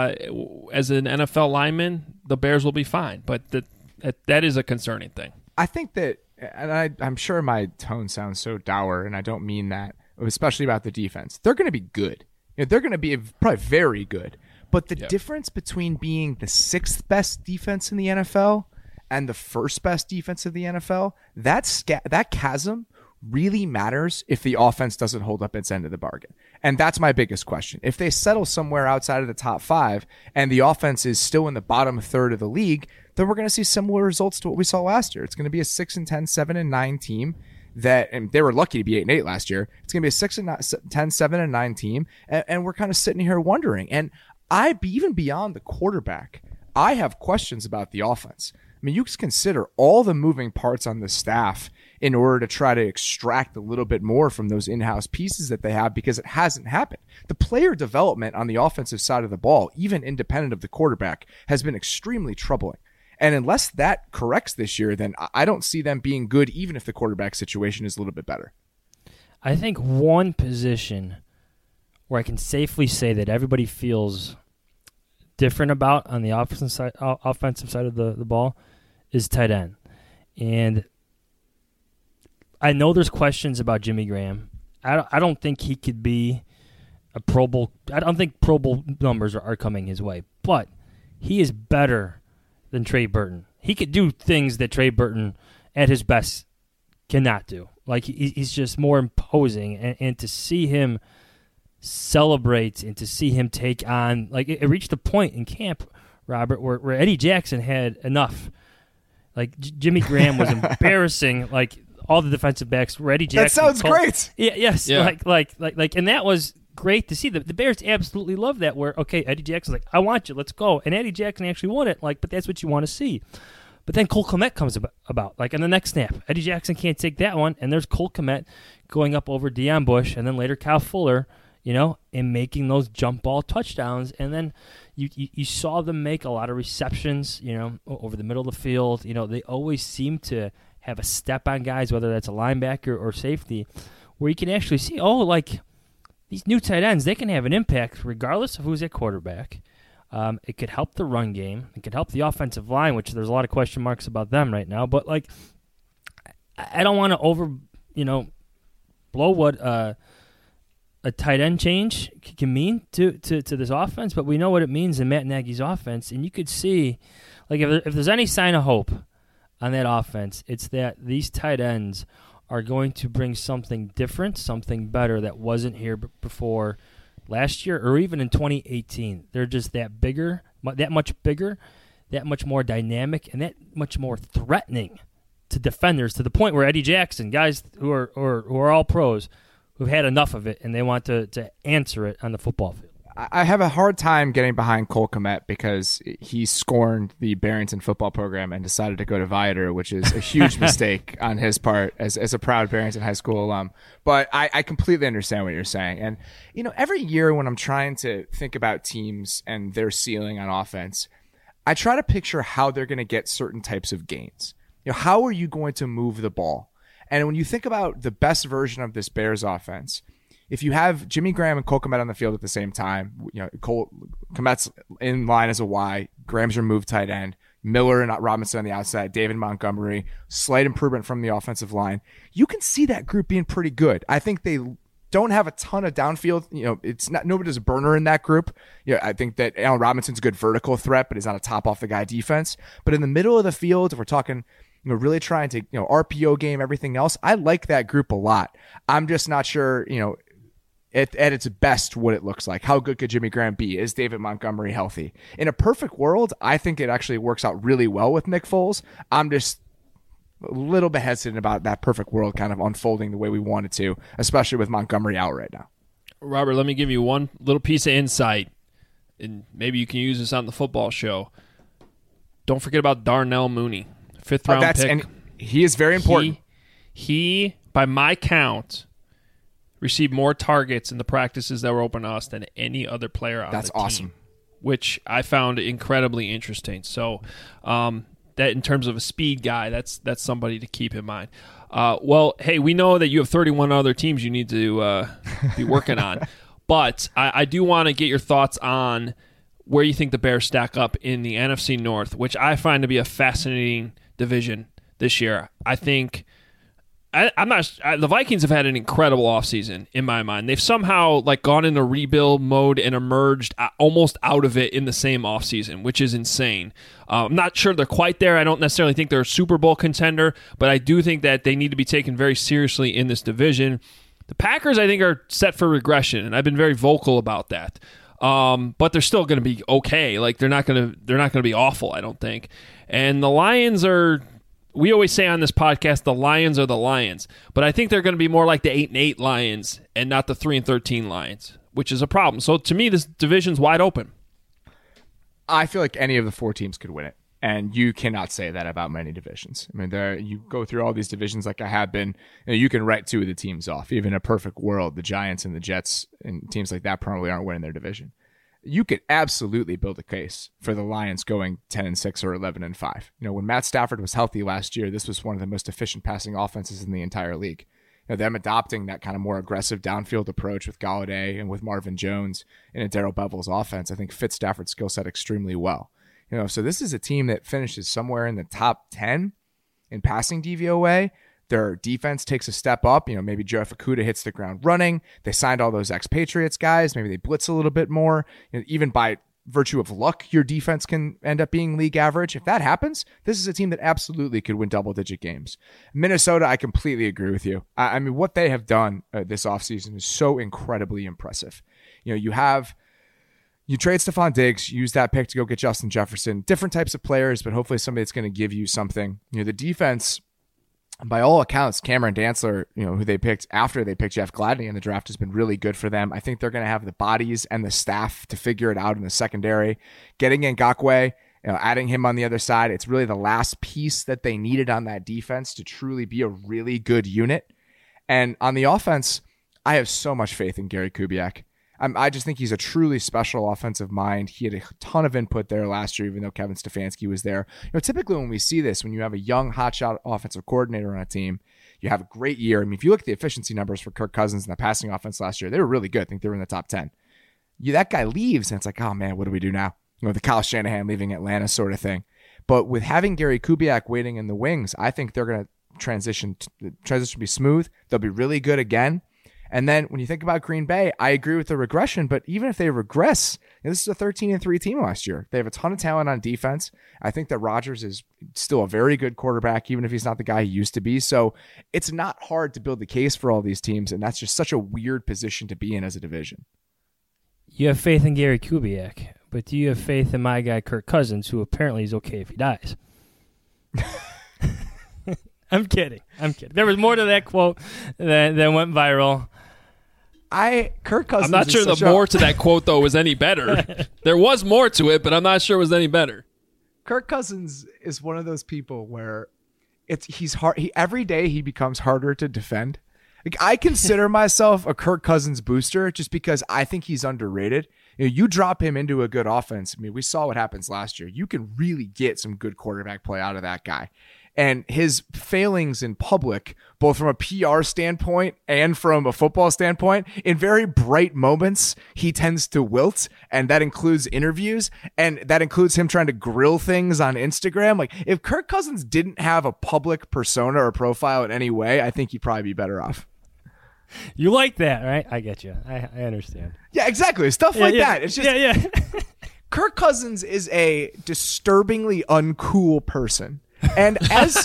as an NFL lineman, the Bears will be fine. But that is a concerning thing. I think that, and I'm sure my tone sounds so dour, and I don't mean that, especially about the defense. They're going to be good. They're going to be probably very good. But the difference between being the 6th best defense in the NFL and the 1st best defense of the NFL, that chasm really matters if the offense doesn't hold up its end of the bargain. And that's my biggest question. If they settle somewhere outside of the top 5 and the offense is still in the bottom third of the league, then we're going to see similar results to what we saw last year. It's going to be a 6-10, 7-9 team. And they were lucky to be 8-8 last year. It's going to be a 6-10, 7-9 team, and we're kind of sitting here wondering. And even beyond the quarterback, I have questions about the offense. I mean, you can consider all the moving parts on the staff in order to try to extract a little bit more from those in-house pieces that they have because it hasn't happened. The player development on the offensive side of the ball, even independent of the quarterback, has been extremely troubling. And unless that corrects this year, then I don't see them being good, even if the quarterback situation is a little bit better. I think one position where I can safely say that everybody feels different about on the offensive side of the ball is tight end. And I know there's questions about Jimmy Graham. I don't think he could be a Pro Bowl. I don't think Pro Bowl numbers are coming his way. But he is better than Trey Burton. He could do things that Trey Burton at his best cannot do. Like he's just more imposing, and to see him celebrate and to see him take on, like it reached a point in camp, Robert, where Eddie Jackson had enough. Like Jimmy Graham was embarrassing, like all the defensive backs. Where Eddie Jackson that sounds great. Yeah, yes, yeah. Like, and that was great to see. The Bears absolutely love that, where, okay, Eddie Jackson's like, I want you, let's go. And Eddie Jackson actually won it, but that's what you want to see. But then Cole Kmet comes about, in the next snap. Eddie Jackson can't take that one, and there's Cole Kmet going up over Deion Bush, and then later Kyle Fuller, and making those jump ball touchdowns. And then you saw them make a lot of receptions, over the middle of the field. They always seem to have a step on guys, whether that's a linebacker or safety, where you can actually see, these new tight ends, they can have an impact regardless of who's at quarterback. It could help the run game. It could help the offensive line, which there's a lot of question marks about them right now. But, I don't want to blow what a tight end change can mean to this offense, but we know what it means in Matt Nagy's offense. And you could see, if there's any sign of hope on that offense, it's that these tight ends are going to bring something different, something better that wasn't here before last year or even in 2018. They're just that much bigger, that much more dynamic, and that much more threatening to defenders, to the point where Eddie Jackson, guys who are all pros, who've had enough of it, and they want to answer it on the football field. I have a hard time getting behind Cole Kmet because he scorned the Barrington football program and decided to go to Viator, which is a huge mistake on his part as a proud Barrington High School alum. But I completely understand what you're saying. And, every year when I'm trying to think about teams and their ceiling on offense, I try to picture how they're going to get certain types of gains. How are you going to move the ball? And when you think about the best version of this Bears offense, if you have Jimmy Graham and Cole Kmet on the field at the same time, Cole Kmet's in line as a Y, Graham's your move tight end, Miller and Robinson on the outside, David Montgomery, slight improvement from the offensive line. You can see that group being pretty good. I think they don't have a ton of downfield. It's not, nobody's a burner in that group. I think that Allen Robinson's a good vertical threat, but he's not a top off the guy defense. But in the middle of the field, if we're talking, really trying to, RPO game, everything else, I like that group a lot. I'm just not sure, at its best, what it looks like. How good could Jimmy Graham be? Is David Montgomery healthy? In a perfect world, I think it actually works out really well with Nick Foles. I'm just a little bit hesitant about that perfect world kind of unfolding the way we want it to, especially with Montgomery out right now. Robert, let me give you one little piece of insight, and maybe you can use this on the football show. Don't forget about Darnell Mooney, 5th round pick. And he is very important. He, by my count, received more targets in the practices that were open to us than any other player on the team. That's awesome. Which I found incredibly interesting. So that in terms of a speed guy, that's somebody to keep in mind. Well, hey, we know that you have 31 other teams you need to be working on. But I do want to get your thoughts on where you think the Bears stack up in the NFC North, which I find to be a fascinating division this year. I think the Vikings have had an incredible offseason in my mind. They've somehow gone into rebuild mode and emerged almost out of it in the same offseason, which is insane. I'm not sure they're quite there. I don't necessarily think they're a Super Bowl contender, but I do think that they need to be taken very seriously in this division. The Packers, I think, are set for regression, and I've been very vocal about that. But they're still going to be okay. They're not going to be awful, I don't think. And the Lions are. We always say on this podcast, the Lions are the Lions, but I think they're going to be more like the 8-8 Lions and not the 3-13 Lions, which is a problem. So to me, this division's wide open. I feel like any of the 4 teams could win it, and you cannot say that about many divisions. I mean, you go through all these divisions like I have been, you can write 2 of the teams off. Even in a perfect world, the Giants and the Jets and teams like that probably aren't winning their division. You could absolutely build a case for the Lions going 10-6 or 11-5. When Matt Stafford was healthy last year, this was one of the most efficient passing offenses in the entire league. Them adopting that kind of more aggressive downfield approach with Golladay and with Marvin Jones in a Darrell Bevel's offense, I think fits Stafford's skill set extremely well. So this is a team that finishes somewhere in the top 10 in passing DVOA. Their defense takes a step up. Maybe Joe Fukuda hits the ground running. They signed all those ex-Patriots guys. Maybe they blitz a little bit more. Even by virtue of luck, your defense can end up being league average. If that happens, this is a team that absolutely could win double-digit games. Minnesota, I completely agree with you. I mean, what they have done this offseason is so incredibly impressive. You trade Stephon Diggs, use that pick to go get Justin Jefferson. Different types of players, but hopefully somebody that's going to give you something. The defense by all accounts, Cameron Dantzler, who they picked after they picked Jeff Gladney in the draft, has been really good for them. I think they're going to have the bodies and the staff to figure it out in the secondary. Getting Ngakoue, adding him on the other side, it's really the last piece that they needed on that defense to truly be a really good unit. And on the offense, I have so much faith in Gary Kubiak. I just think he's a truly special offensive mind. He had a ton of input there last year, even though Kevin Stefanski was there. Typically when we see this, when you have a young hotshot offensive coordinator on a team, you have a great year. I mean, if you look at the efficiency numbers for Kirk Cousins in the passing offense last year, they were really good. I think they were in the top 10. That guy leaves, and it's like, oh man, what do we do now? The Kyle Shanahan leaving Atlanta sort of thing. But with having Gary Kubiak waiting in the wings, I think they're going to transition will be smooth. They'll be really good again. And then when you think about Green Bay, I agree with the regression, but even if they regress, this is a 13-3 team last year. They have a ton of talent on defense. I think that Rodgers is still a very good quarterback, even if he's not the guy he used to be. So it's not hard to build the case for all these teams, and that's just such a weird position to be in as a division. You have faith in Gary Kubiak, but do you have faith in my guy Kirk Cousins, who apparently is okay if he dies? I'm kidding. There was more to that quote that went viral. Kirk Cousins. I'm not sure the more to that quote though was any better. There was more to it, but I'm not sure it was any better. Kirk Cousins is one of those people where he's hard. Every day he becomes harder to defend. Like, I consider myself a Kirk Cousins booster just because I think he's underrated. You drop him into a good offense. I mean, we saw what happens last year. You can really get some good quarterback play out of that guy. And his failings in public, both from a PR standpoint and from a football standpoint, in very bright moments, he tends to wilt. And that includes interviews. And that includes him trying to grill things on Instagram. Like, if Kirk Cousins didn't have a public persona or profile in any way, I think he'd probably be better off. You like that, right? I get you. I understand. Yeah, exactly. Stuff like that. It's just Kirk Cousins is a disturbingly uncool person. And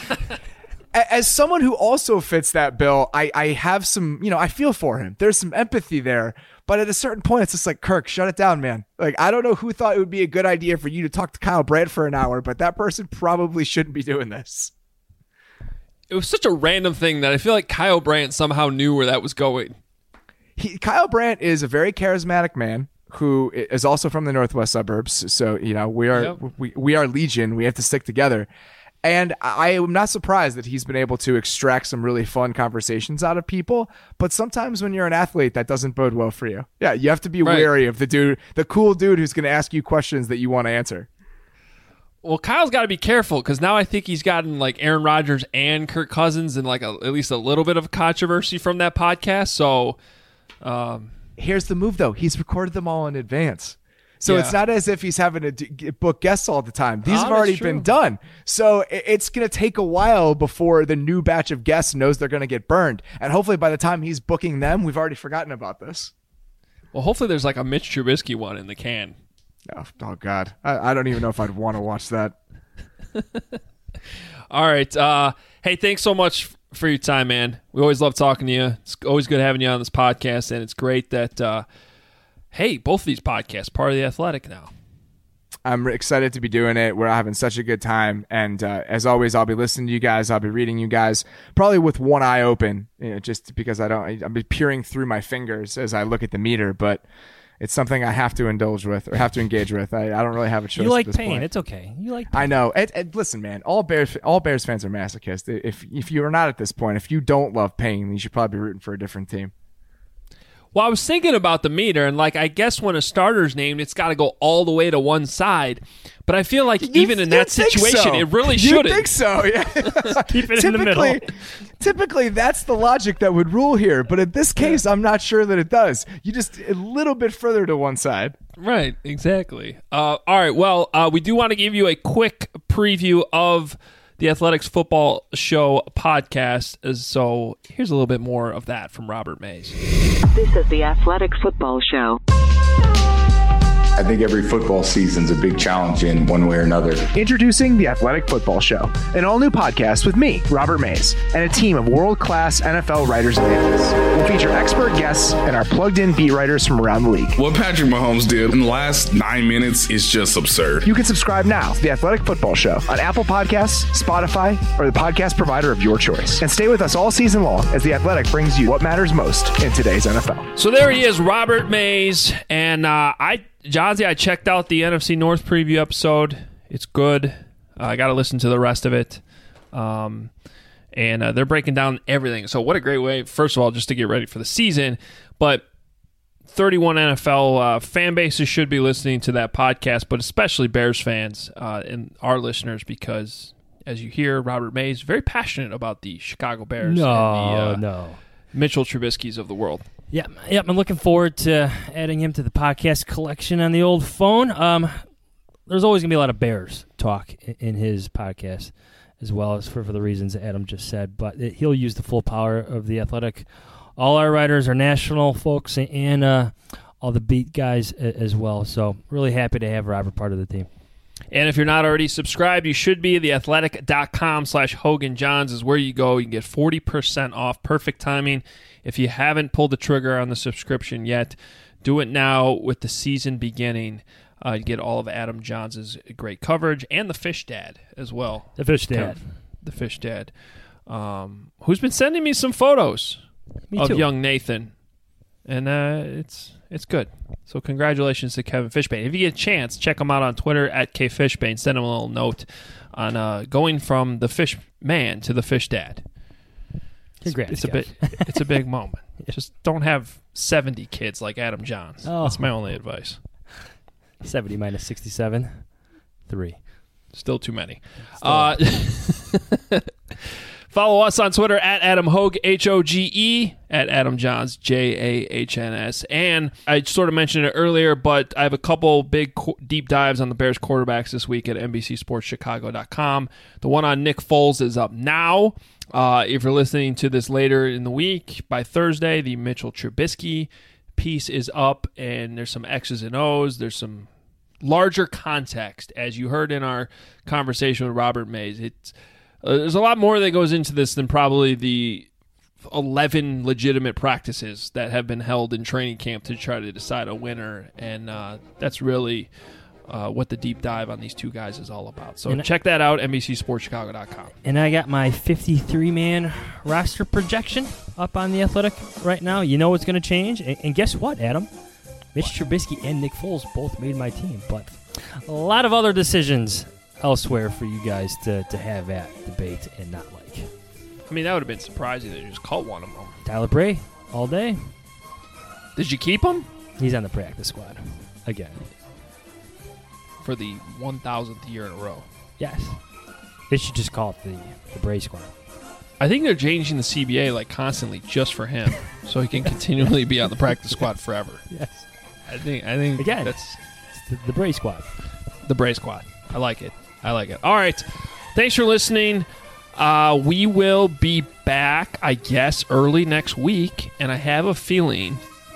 as someone who also fits that bill, I have some, I feel for him. There's some empathy there. But at a certain point, it's just like, Kirk, shut it down, man. Like, I don't know who thought it would be a good idea for you to talk to Kyle Brandt for an hour, but that person probably shouldn't be doing this. It was such a random thing that I feel like Kyle Brandt somehow knew where that was going. Kyle Brandt is a very charismatic man who is also from the Northwest suburbs. So, we are Legion. We have to stick together. And I am not surprised that he's been able to extract some really fun conversations out of people. But sometimes when you're an athlete, that doesn't bode well for you. Yeah, you have to be wary of the cool dude who's going to ask you questions that you want to answer. Well, Kyle's got to be careful because now I think he's gotten like Aaron Rodgers and Kirk Cousins in like at least a little bit of controversy from that podcast. So here's the move, though. He's recorded them all in advance. So it's not as if he's having to book guests all the time. These have already been done. So it's going to take a while before the new batch of guests knows they're going to get burned. And hopefully by the time he's booking them, we've already forgotten about this. Well, hopefully there's like a Mitch Trubisky one in the can. Oh God. I don't even know if I'd want to watch that. All right. Hey, thanks so much for your time, man. We always love talking to you. It's always good having you on this podcast, and it's great that, both of these podcasts, part of The Athletic now. I'm excited to be doing it. We're having such a good time. And as always, I'll be listening to you guys. I'll be reading you guys, probably with one eye open, just because I'll be peering through my fingers as I look at the meter. But it's something I have to indulge with or have to engage with. I don't really have a choice. You like at this pain. point. It's okay. You like pain. I know. And listen, man, all Bears fans are masochists. If you are not at this point, if you don't love pain, you should probably be rooting for a different team. Well, I was thinking about the meter, and I guess when a starter's named, it's got to go all the way to one side. But I feel like even in that situation, it really shouldn't. You think so? Yeah. Keep it in the middle. Typically, that's the logic that would rule here. But in this case, I'm not sure that it does. You just a little bit further to one side. Right. Exactly. All right. Well, we do want to give you a quick preview of the Athletics Football Show podcast. So here's a little bit more of that from Robert Mays. This is the Athletics Football Show. I think every football season's a big challenge in one way or another. Introducing The Athletic Football Show, an all-new podcast with me, Robert Mays, and a team of world-class NFL writers and analysts. We'll feature expert guests and our plugged-in beat writers from around the league. What Patrick Mahomes did in the last 9 minutes is just absurd. You can subscribe now to The Athletic Football Show on Apple Podcasts, Spotify, or the podcast provider of your choice. And stay with us all season long as The Athletic brings you what matters most in today's NFL. So there he is, Robert Mays, and Johnsy, I checked out the NFC North preview episode. It's good. I got to listen to the rest of it. And they're breaking down everything. So what a great way, first of all, just to get ready for the season. But 31 NFL fan bases should be listening to that podcast, but especially Bears fans and our listeners, because as you hear, Robert Mays is very passionate about the Chicago Bears and the Mitchell Trubisky's of the world. Yep. I'm looking forward to adding him to the podcast collection on the old phone. There's always going to be a lot of Bears talk in his podcast, as well as for the reasons Adam just said. But he'll use the full power of The Athletic. All our writers are national folks and all the beat guys as well. So really happy to have Robert part of the team. And if you're not already subscribed, you should be. TheAthletic.com/Hogan Johns is where you go. You can get 40% off. Perfect timing. If you haven't pulled the trigger on the subscription yet, do it now with the season beginning. You get all of Adam Johns' great coverage and the Fish Dad as well. The Fish Dad. The Fish Dad. Who's been sending me some photos of young Nathan. And it's good. So congratulations to Kevin Fishbane. If you get a chance, check him out on Twitter at KFishbane. Send him a little note on going from the Fish Man to the Fish Dad. Congrats, it's a big moment. Just don't have 70 kids like Adam Johns. Oh. That's my only advice. 70 minus 67, 3. Still too many. Follow us on Twitter at Adam Hogue, Hoge, at Adam Johns, Jahns. And I sort of mentioned it earlier, but I have a couple big deep dives on the Bears quarterbacks this week at NBCSportsChicago.com. The one on Nick Foles is up now. If you're listening to this later in the week, by Thursday, the Mitchell Trubisky piece is up, and there's some X's and O's. There's some larger context, as you heard in our conversation with Robert Mays. There's a lot more that goes into this than probably the 11 legitimate practices that have been held in training camp to try to decide a winner, and that's really what the deep dive on these two guys is all about. So check that out, NBCSportsChicago.com. And I got my 53-man roster projection up on The Athletic right now. You know what's going to change. And guess what, Adam? Mitch Trubisky and Nick Foles both made my team, but a lot of other decisions elsewhere for you guys to have at debate and not like. I mean, that would have been surprising that you just caught one of them. Tyler Bray, all day. Did you keep him? He's on the practice squad again. For the 1,000th year in a row. Yes. They should just call it the Bray squad. I think they're changing the CBA like constantly just for him, so he can continually be on the practice squad forever. Yes. I think again, that's the Bray squad. The Bray squad. I like it. All right. Thanks for listening. We will be back, I guess, early next week, and I have a feeling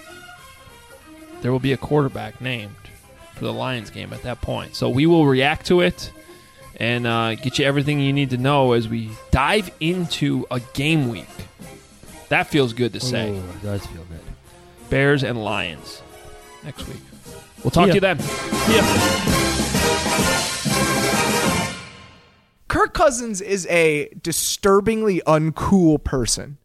there will be a quarterback named for the Lions game at that point. So we will react to it and get you everything you need to know as we dive into a game week. That feels good to say. Oh, it does feel good. Bears and Lions next week. We'll talk to you then. Kirk Cousins is a disturbingly uncool person.